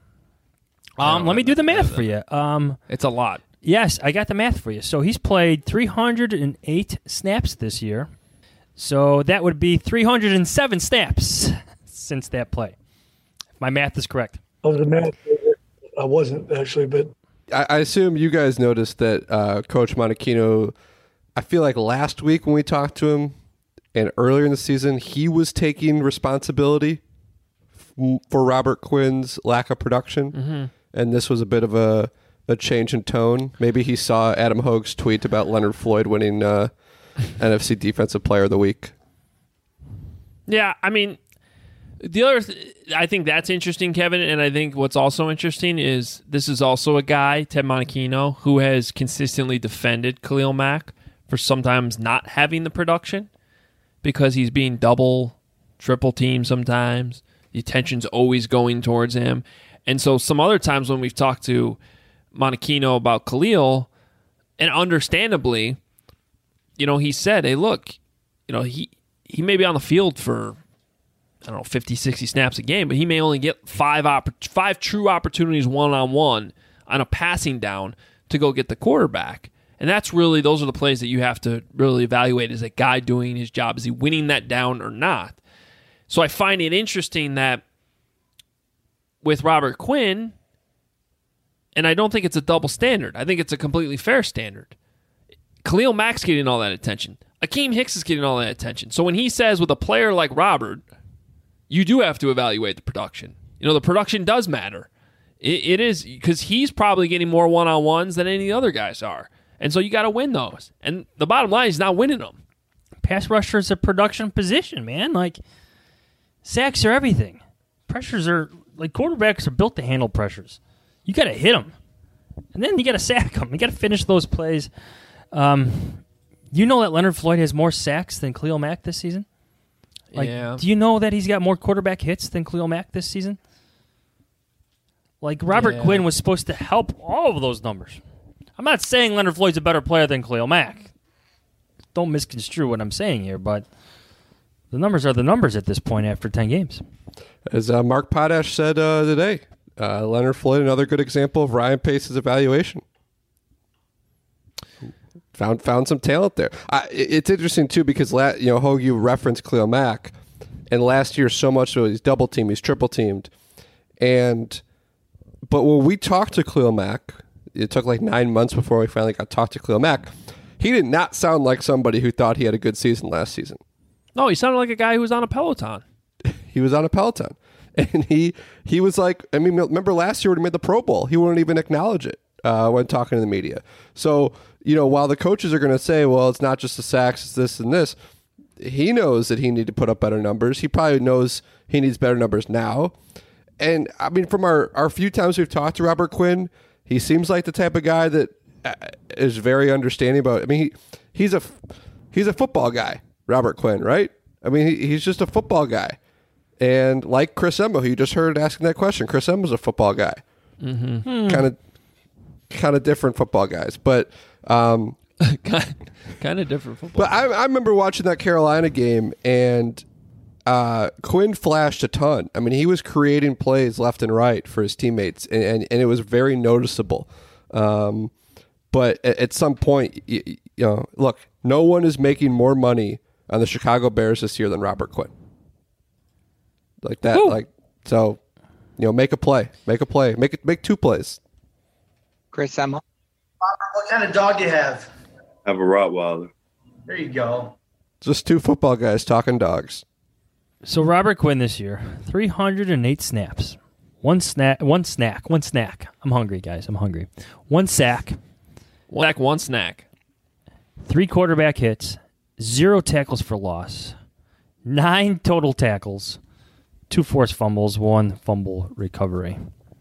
Um, let me do the math for you. Um, it's a lot. Yes, I got the math for you. So he's played three hundred eight snaps this year. So that would be three hundred seven snaps since that play. If my math is correct. Oh, the math, I wasn't actually, but I, I assume you guys noticed that uh, Coach Monachino, I feel like last week when we talked to him and earlier in the season, he was taking responsibility f- for Robert Quinn's lack of production. Mm-hmm. And this was a bit of a, a change in tone. Maybe he saw Adam Hogue's tweet about Leonard Floyd winning uh, N F C Defensive Player of the Week. Yeah, I mean, the other, th- I think that's interesting, Kevin, and I think what's also interesting is this is also a guy, Ted Monachino, who has consistently defended Khalil Mack for sometimes not having the production because he's being double, triple teamed sometimes. The attention's always going towards him. And so some other times when we've talked to Monachino about Khalil, and understandably, you know, he said, hey, look, you know, he, he may be on the field for, I don't know, fifty, sixty snaps a game, but he may only get five oppor- five true opportunities one-on-one on a passing down to go get the quarterback. And that's really, those are the plays that you have to really evaluate. Is a guy doing his job? Is he winning that down or not? So I find it interesting that with Robert Quinn, and I don't think it's a double standard. I think it's a completely fair standard. Khalil Mack's getting all that attention. Akeem Hicks is getting all that attention. So when he says with a player like Robert, you do have to evaluate the production. You know, the production does matter. It, it is, because he's probably getting more one-on-ones than any other guys are. And so you got to win those. And the bottom line is not winning them. Pass rusher is a production position, man. Like, sacks are everything. Pressures are... Like, quarterbacks are built to handle pressures. You got to hit them. And then you got to sack them. You got to finish those plays. Um, you know that Leonard Floyd has more sacks than Khalil Mack this season? Like, yeah. Do you know that he's got more quarterback hits than Khalil Mack this season? Like, Robert Yeah. Quinn was supposed to help all of those numbers. I'm not saying Leonard Floyd's a better player than Khalil Mack. Don't misconstrue what I'm saying here, but the numbers are the numbers at this point after ten games. As uh, Mark Potash said uh, today, uh, Leonard Floyd, another good example of Ryan Pace's evaluation. Found found some talent there. I, it's interesting too because la- you know Hogue, you referenced Khalil Mack, and last year so much so he's double teamed, he's triple teamed, and but when we talked to Khalil Mack, it took like nine months before we finally got to talk to Khalil Mack. He did not sound like somebody who thought he had a good season last season. No, he sounded like a guy who was on a Peloton. He was on a Peloton. And he he was like, I mean, remember last year when he made the Pro Bowl, he wouldn't even acknowledge it uh, when talking to the media. So, you know, while the coaches are going to say, well, it's not just the sacks, it's this and this, he knows that he needs to put up better numbers. He probably knows he needs better numbers now. And, I mean, from our, our few times we've talked to Robert Quinn, he seems like the type of guy that is very understanding about, I mean, he, he's a he's a football guy, Robert Quinn, right? I mean, he, he's just a football guy. And like Chris Embo, who you just heard asking that question, Chris Embo's a football guy. Mm-hmm. Kind of kind of different football guys. But um, kind of different football. But I, I remember watching that Carolina game, and uh, Quinn flashed a ton. I mean, he was creating plays left and right for his teammates, and, and, and it was very noticeable. Um, but at, at some point, you, you know, look, no one is making more money on the Chicago Bears this year than Robert Quinn. Like that, Woo. like so, you know, make a play, make a play, make it, make two plays. Chris Emma. What kind of dog do you have? I have a Rottweiler. There you go. Just two football guys talking dogs. So Robert Quinn this year, three hundred eight snaps, one snack, one snack, one snack. I'm hungry, guys. I'm hungry. One sack, one sack, one snack. Three quarterback hits, zero tackles for loss, nine total tackles. Two forced fumbles, one fumble recovery.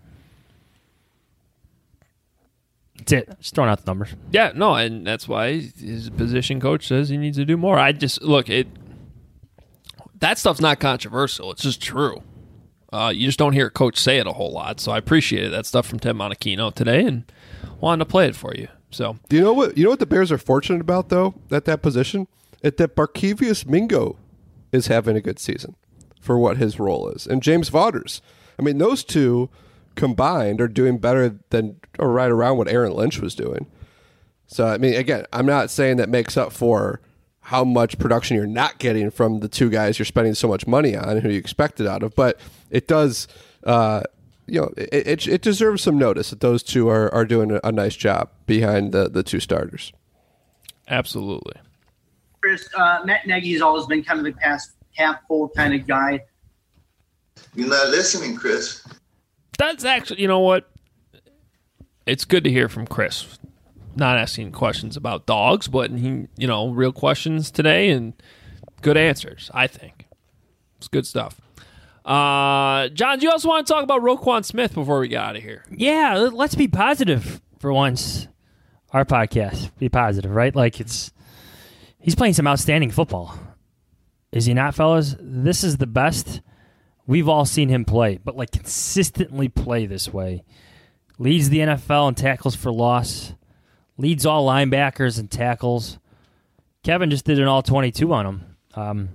That's it. Just throwing out the numbers. Yeah, no, and that's why his position coach says he needs to do more. I just, look, it. That stuff's not controversial. It's just true. Uh, you just don't hear a coach say it a whole lot. So I appreciated that stuff from Ted Monachino today and wanted to play it for you. So do you know what you know what the Bears are fortunate about though at that position? It's that Barkevious Mingo is having a good season for what his role is, and James Vaughters. I mean, those two combined are doing better than or right around what Aaron Lynch was doing. So I mean, again, I'm not saying that makes up for how much production you're not getting from the two guys you're spending so much money on and who you expect it out of, but it does. Uh, You know, it, it it deserves some notice that those two are, are doing a, a nice job behind the, the two starters. Absolutely. Chris, uh, Matt Nagy's always been kind of the pass half full kind of guy. You're not listening, Chris. That's actually, you know what? It's good to hear from Chris. Not asking questions about dogs, but he, you know, real questions today and good answers, I think. It's good stuff. Uh, John, do you also want to talk about Roquan Smith before we get out of here? Yeah, let's be positive for once. Our podcast, be positive, right? Like it's, he's playing some outstanding football. Is he not, fellas? This is the best we've all seen him play, but like consistently play this way. Leads the N F L in tackles for loss. Leads all linebackers in tackles. Kevin just did an all twenty-two on him. Um,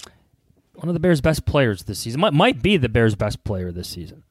One of the Bears' best players this season. Might, might be the Bears' best player this season.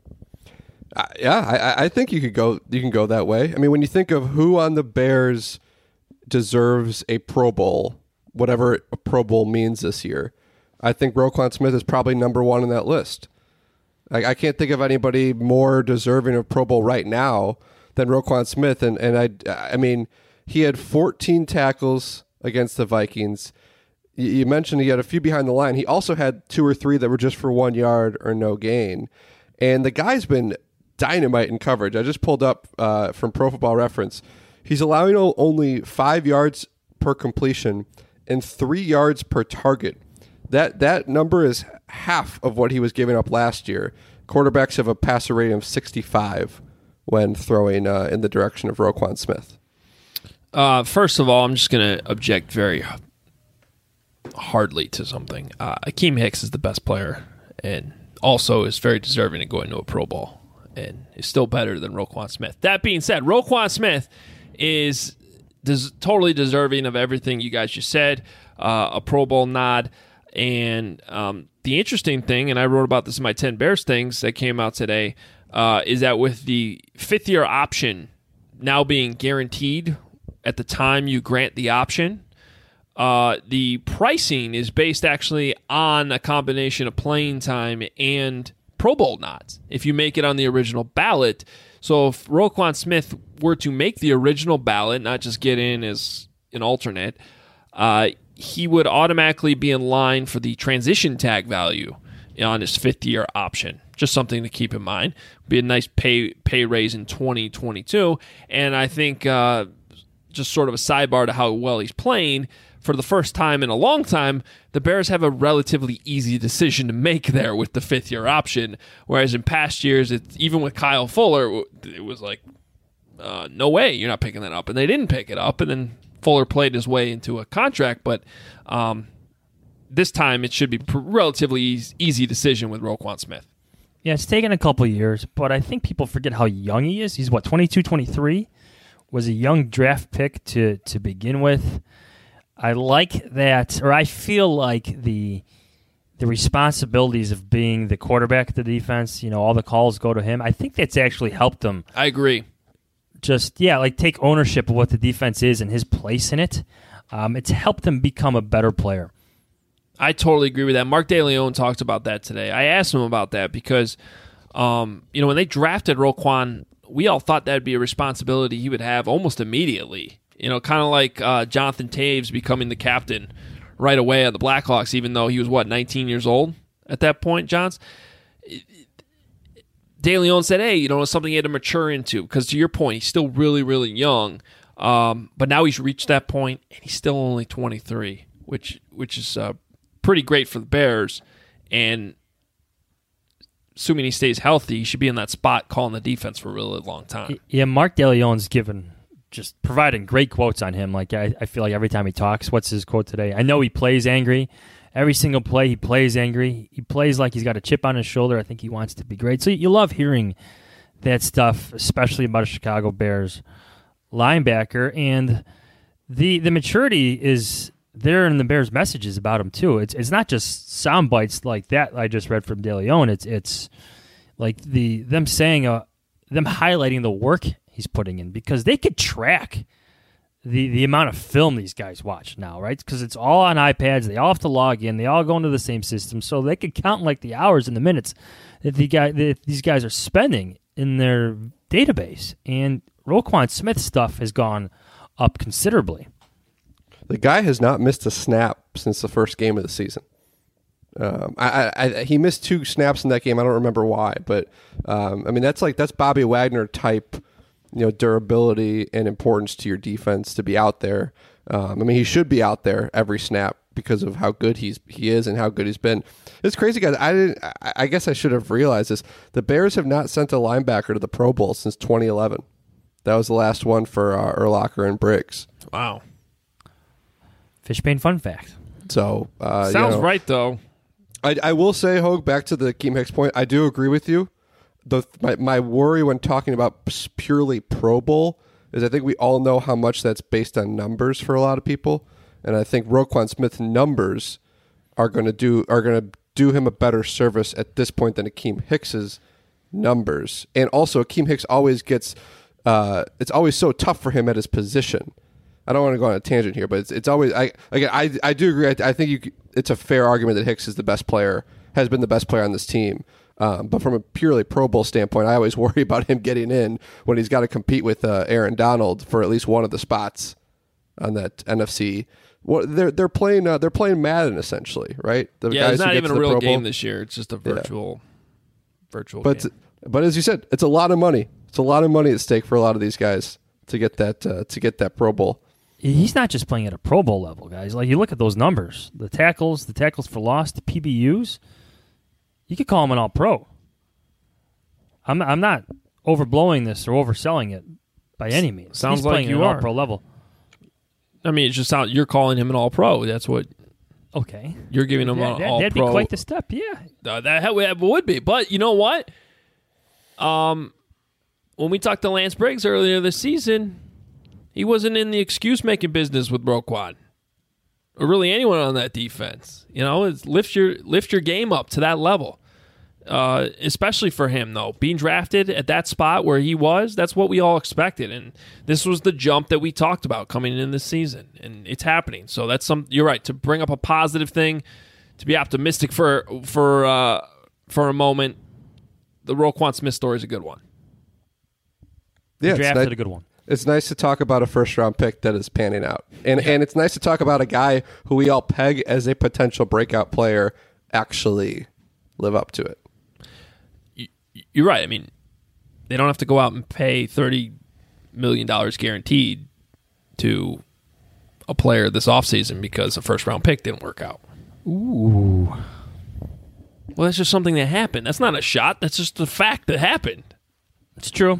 Uh, yeah, I, I think you could go. You can go that way. I mean, when you think of who on the Bears deserves a Pro Bowl, whatever a Pro Bowl means this year, I think Roquan Smith is probably number one on that list. Like, I can't think of anybody more deserving of Pro Bowl right now than Roquan Smith. And and I, I mean, he had fourteen tackles against the Vikings. You mentioned he had a few behind the line. He also had two or three that were just for one yard or no gain. And the guy's been dynamite in coverage. I just pulled up uh, from Pro Football Reference. He's allowing only five yards per completion and three yards per target. That that number is half of what he was giving up last year. Quarterbacks have a passer rating of sixty-five when throwing uh, in the direction of Roquan Smith. Uh, first of all, I'm just going to object very hardly to something. Uh, Akeem Hicks is the best player and also is very deserving of going to a Pro Bowl and is still better than Roquan Smith. That being said, Roquan Smith is des- totally deserving of everything you guys just said, uh, a Pro Bowl nod. And um, the interesting thing, and I wrote about this in my ten Bears things that came out today, uh, is that with the fifth-year option now being guaranteed at the time you grant the option, Uh, the pricing is based actually on a combination of playing time and Pro Bowl nods if you make it on the original ballot. So if Roquan Smith were to make the original ballot, not just get in as an alternate, uh, he would automatically be in line for the transition tag value on his fifth-year option. Just something to keep in mind. Be a nice pay pay raise in twenty twenty-two. And I think uh, just sort of a sidebar to how well he's playing, for the first time in a long time, the Bears have a relatively easy decision to make there with the fifth-year option, whereas in past years, it's, even with Kyle Fuller, it was like, uh, no way, you're not picking that up. And they didn't pick it up, and then Fuller played his way into a contract, but um, this time it should be a relatively easy, easy decision with Roquan Smith. Yeah, it's taken a couple years, but I think people forget how young he is. He's, what, twenty-two, twenty-three? Was a young draft pick to, to begin with. I like that, or I feel like the the responsibilities of being the quarterback of the defense, you know, all the calls go to him. I think that's actually helped him. I agree. Just, yeah, like take ownership of what the defense is and his place in it. Um, it's helped him become a better player. I totally agree with that. Mark DeLeon talked about that today. I asked him about that because, um, you know, when they drafted Roquan, we all thought that would be a responsibility he would have almost immediately. You know, kind of like uh, Jonathan Taves becoming the captain right away of the Blackhawks, even though he was, what, nineteen years old at that point, Johns? DeLeon said, hey, you know, it's something he had to mature into, because to your point, he's still really, really young. Um, but now he's reached that point, and he's still only twenty-three, which which is uh, pretty great for the Bears. And assuming he stays healthy, he should be in that spot calling the defense for a really long time. Yeah, Mark DeLeon's given... just providing great quotes on him. Like I, I feel like every time he talks, what's his quote today? I know he plays angry, every single play he plays angry. He plays like he's got a chip on his shoulder. I think he wants to be great. So you love hearing that stuff, especially about a Chicago Bears linebacker. And the the maturity is there in the Bears' messages about him too. It's it's not just sound bites like that I just read from De Leon. It's it's like the them saying uh, them highlighting the work he's putting in, because they could track the the amount of film these guys watch now, right? Because it's all on iPads. They all have to log in. They all go into the same system, so they could count like the hours and the minutes that the guy that these guys are spending in their database. And Roquan Smith stuff has gone up considerably. The guy has not missed a snap since the first game of the season. Um, I, I, he missed two snaps in that game. I don't remember why, but um, I mean that's like that's Bobby Wagner type, you know, durability and importance to your defense to be out there. Um, I mean, he should be out there every snap because of how good he's he is and how good he's been. It's crazy, guys. I didn't. I, I guess I should have realized this. The Bears have not sent a linebacker to the Pro Bowl since twenty eleven. That was the last one for uh, Urlacher and Briggs. Wow. Fishbane fun fact. So uh, sounds you know, right though. I, I will say, Hogue, back to the Akeem Hicks point, I do agree with you. The my, my worry when talking about purely Pro Bowl is I think we all know how much that's based on numbers for a lot of people, and I think Roquan Smith's numbers are going to do are going to do him a better service at this point than Akeem Hicks's numbers. And also, Akeem Hicks always gets uh, it's always so tough for him at his position. I don't want to go on a tangent here, but it's it's always I again I I do agree. I, I think you it's a fair argument that Hicks is the best player, has been the best player on this team. Um, but from a purely Pro Bowl standpoint, I always worry about him getting in when he's got to compete with uh, Aaron Donald for at least one of the spots on that N F C. Well, they're they're playing uh, they're playing Madden essentially, right? The yeah, it's not even a real Pro game Bowl. this year. It's just a virtual yeah. virtual but, game. But as you said, it's a lot of money. It's a lot of money at stake for a lot of these guys to get that uh, to get that Pro Bowl. He's not just playing at a Pro Bowl level, guys. Like, you look at those numbers, the tackles, the tackles for loss, the P B Us. You could call him an all-pro. I'm I'm not overblowing this or overselling it by any means. Sounds He's like playing you at an are. all-pro level. I mean, it's just sound, you're calling him an all-pro. That's what. Okay. You're giving him that, an that, all-pro. That'd be quite the step, yeah. Uh, that, that would be. But you know what? Um, when we talked to Lance Briggs earlier this season, he wasn't in the excuse-making business with Roquan, or really anyone on that defense. You know, it's lift your lift your game up to that level. Uh, especially for him, though, being drafted at that spot where he was, that's what we all expected, and this was the jump that we talked about coming in this season, and it's happening. So that's some. You're right to bring up a positive thing, to be optimistic for for uh, for a moment. The Roquan Smith story is a good one. Yeah, the draft it's is a good one. It's nice to talk about a first-round pick that is panning out. And and it's nice to talk about a guy who we all peg as a potential breakout player actually live up to it. You're right. I mean, they don't have to go out and pay thirty million dollars guaranteed to a player this offseason because a first-round pick didn't work out. Ooh. Well, that's just something that happened. That's not a shot. That's just the fact that happened. It's true.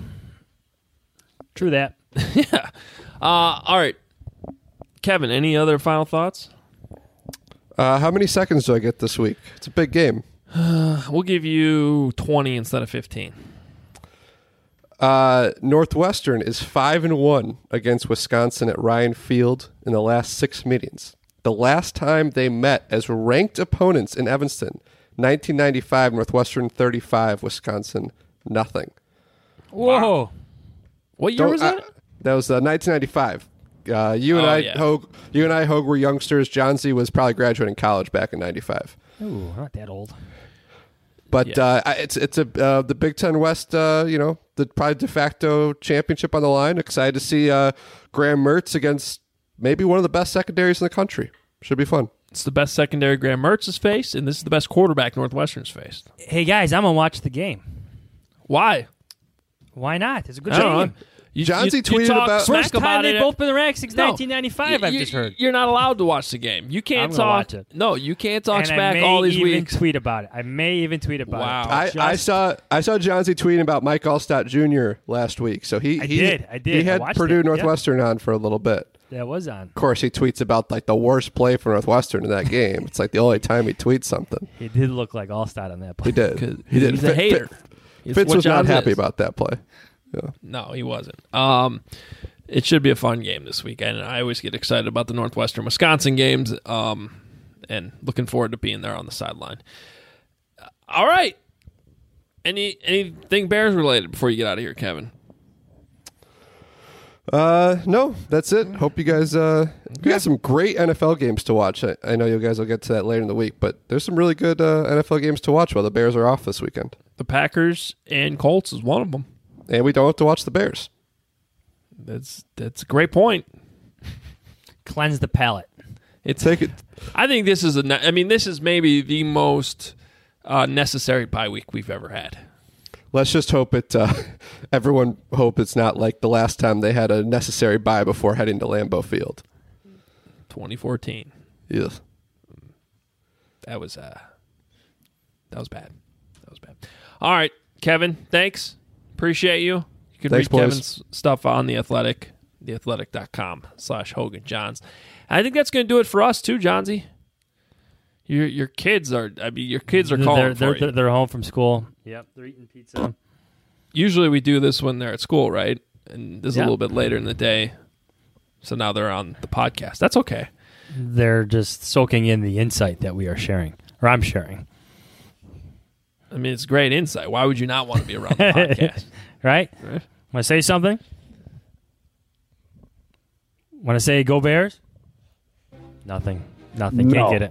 True that. yeah. Uh, all right. Kevin, any other final thoughts? Uh, how many seconds do I get this week? It's a big game. Uh, we'll give you twenty instead of fifteen. Uh, Northwestern is five and one against Wisconsin at Ryan Field in the last six meetings. The last time they met as ranked opponents in Evanston, nineteen ninety-five, Northwestern thirty-five, Wisconsin nothing. Whoa. Wow. What year Don't- was that? Uh, that was uh, nineteen ninety-five. Uh, you and Oh, I, yeah. Hogue, you and I, Hogue, were youngsters. John Z was probably graduating college back in ninety-five. Ooh, not that old. But uh, I- it's it's a uh, the Big Ten West, uh, you know, the probably de facto championship on the line. Excited to see uh, Graham Mertz against maybe one of the best secondaries in the country. Should be fun. It's the best secondary Graham Mertz has faced, and this is the best quarterback Northwestern's faced. Hey, guys, I'm going to watch the game. Why? Why not? It's a good I don't know. game. You, John Z you- you tweeted talk about- smack First time about they've it. both been ranked since No. nineteen ninety-five, I've You- just heard. You're not allowed to watch the game. You can't I'm gonna talk. watch it. No, you can't talk and I smack may all these even weeks. tweet about it. I may even tweet about Wow. it. I, Just- I saw I saw John Z tweeting about Mike Allstott Junior last week. So he I he, did, I did. he I had watched Purdue it, yeah. Northwestern on for a little bit. That was on. Of course, he tweets about like the worst play for Northwestern in that game. It's like the only time he tweets something. He did look like Allstott on that play. He did. He did. He's a hater. It's Fitz what was not Johns happy is. about that play. Yeah. No, he wasn't. Um, it should be a fun game this weekend. I always get excited about the Northwestern Wisconsin games, um, and looking forward to being there on the sideline. Uh, all right. Any anything Bears related before you get out of here, Kevin? Uh, no, that's it. Hope you guys. Uh, we got some great N F L games to watch. I, I know you guys will get to that later in the week, but there's some really good uh, N F L games to watch while the Bears are off this weekend. The Packers and Colts is one of them, and we don't have to watch the Bears. That's that's a great point. Cleanse the palate. It's. Take it. I think this is a. ne- I mean, this is maybe the most uh, necessary bye week we've ever had. Let's just hope it. Uh, everyone hope it's not like the last time they had a necessary bye before heading to Lambeau Field. twenty fourteen. Yes. That was uh. That was bad. That was bad. All right, Kevin. Thanks. Appreciate you. You can Thanks, read boys. Kevin's stuff on The Athletic, theathletic.com slash Hogan Johns. I think that's going to do it for us too, Johnsy. Your your kids are. I mean, your kids are calling They're, for they're, you. they're home from school. Yep, they're eating pizza. Usually we do this when they're at school, right? And this is Yeah. a little bit later in the day. So now they're on the podcast. That's okay. They're just soaking in the insight that we are sharing, or I'm sharing. I mean, it's great insight. Why would you not want to be around the podcast? Right? Right. Want to say something? Want to say go Bears? Nothing. Nothing. No. Can't get it.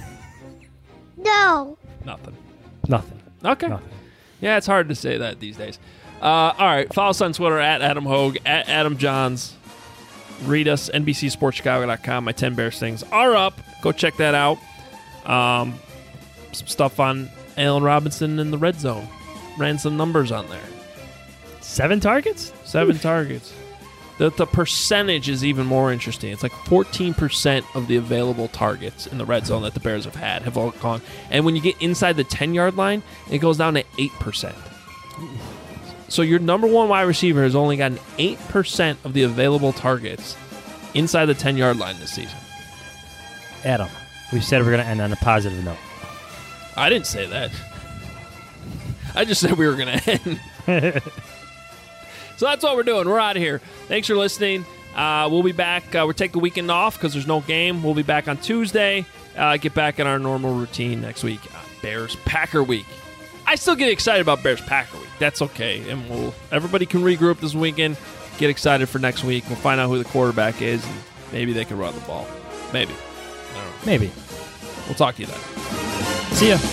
No. Nothing. Nothing. Okay. Nothing. Yeah, it's hard to say that these days. Uh, all right. Follow us on Twitter at Adam Hogue, at Adam Johns. Read us, N B C Sports Chicago dot com. My ten Bears things are up. Go check that out. Um, some stuff on Allen Robinson in the red zone. Ran some numbers on there. Seven targets? Seven targets. The, the percentage is even more interesting. It's like fourteen percent of the available targets in the red zone that the Bears have had have all gone. And when you get inside the ten-yard line, it goes down to eight percent. So your number one wide receiver has only gotten eight percent of the available targets inside the ten-yard line this season. Adam, we said we're going to end on a positive note. I didn't say that. I just said we were going to end. So that's what we're doing. We're out of here. Thanks for listening. Uh, we'll be back. Uh, we're taking the weekend off because there's no game. We'll be back on Tuesday. Uh, get back in our normal routine next week. Uh, Bears Packer week. I still get excited about Bears Packer week. That's okay. And we'll everybody can regroup this weekend. Get excited for next week. We'll find out who the quarterback is, and maybe they can run the ball. Maybe. I don't know. Maybe. We'll talk to you then. See ya.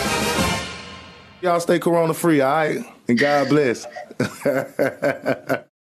Y'all stay corona free, all right? And God bless.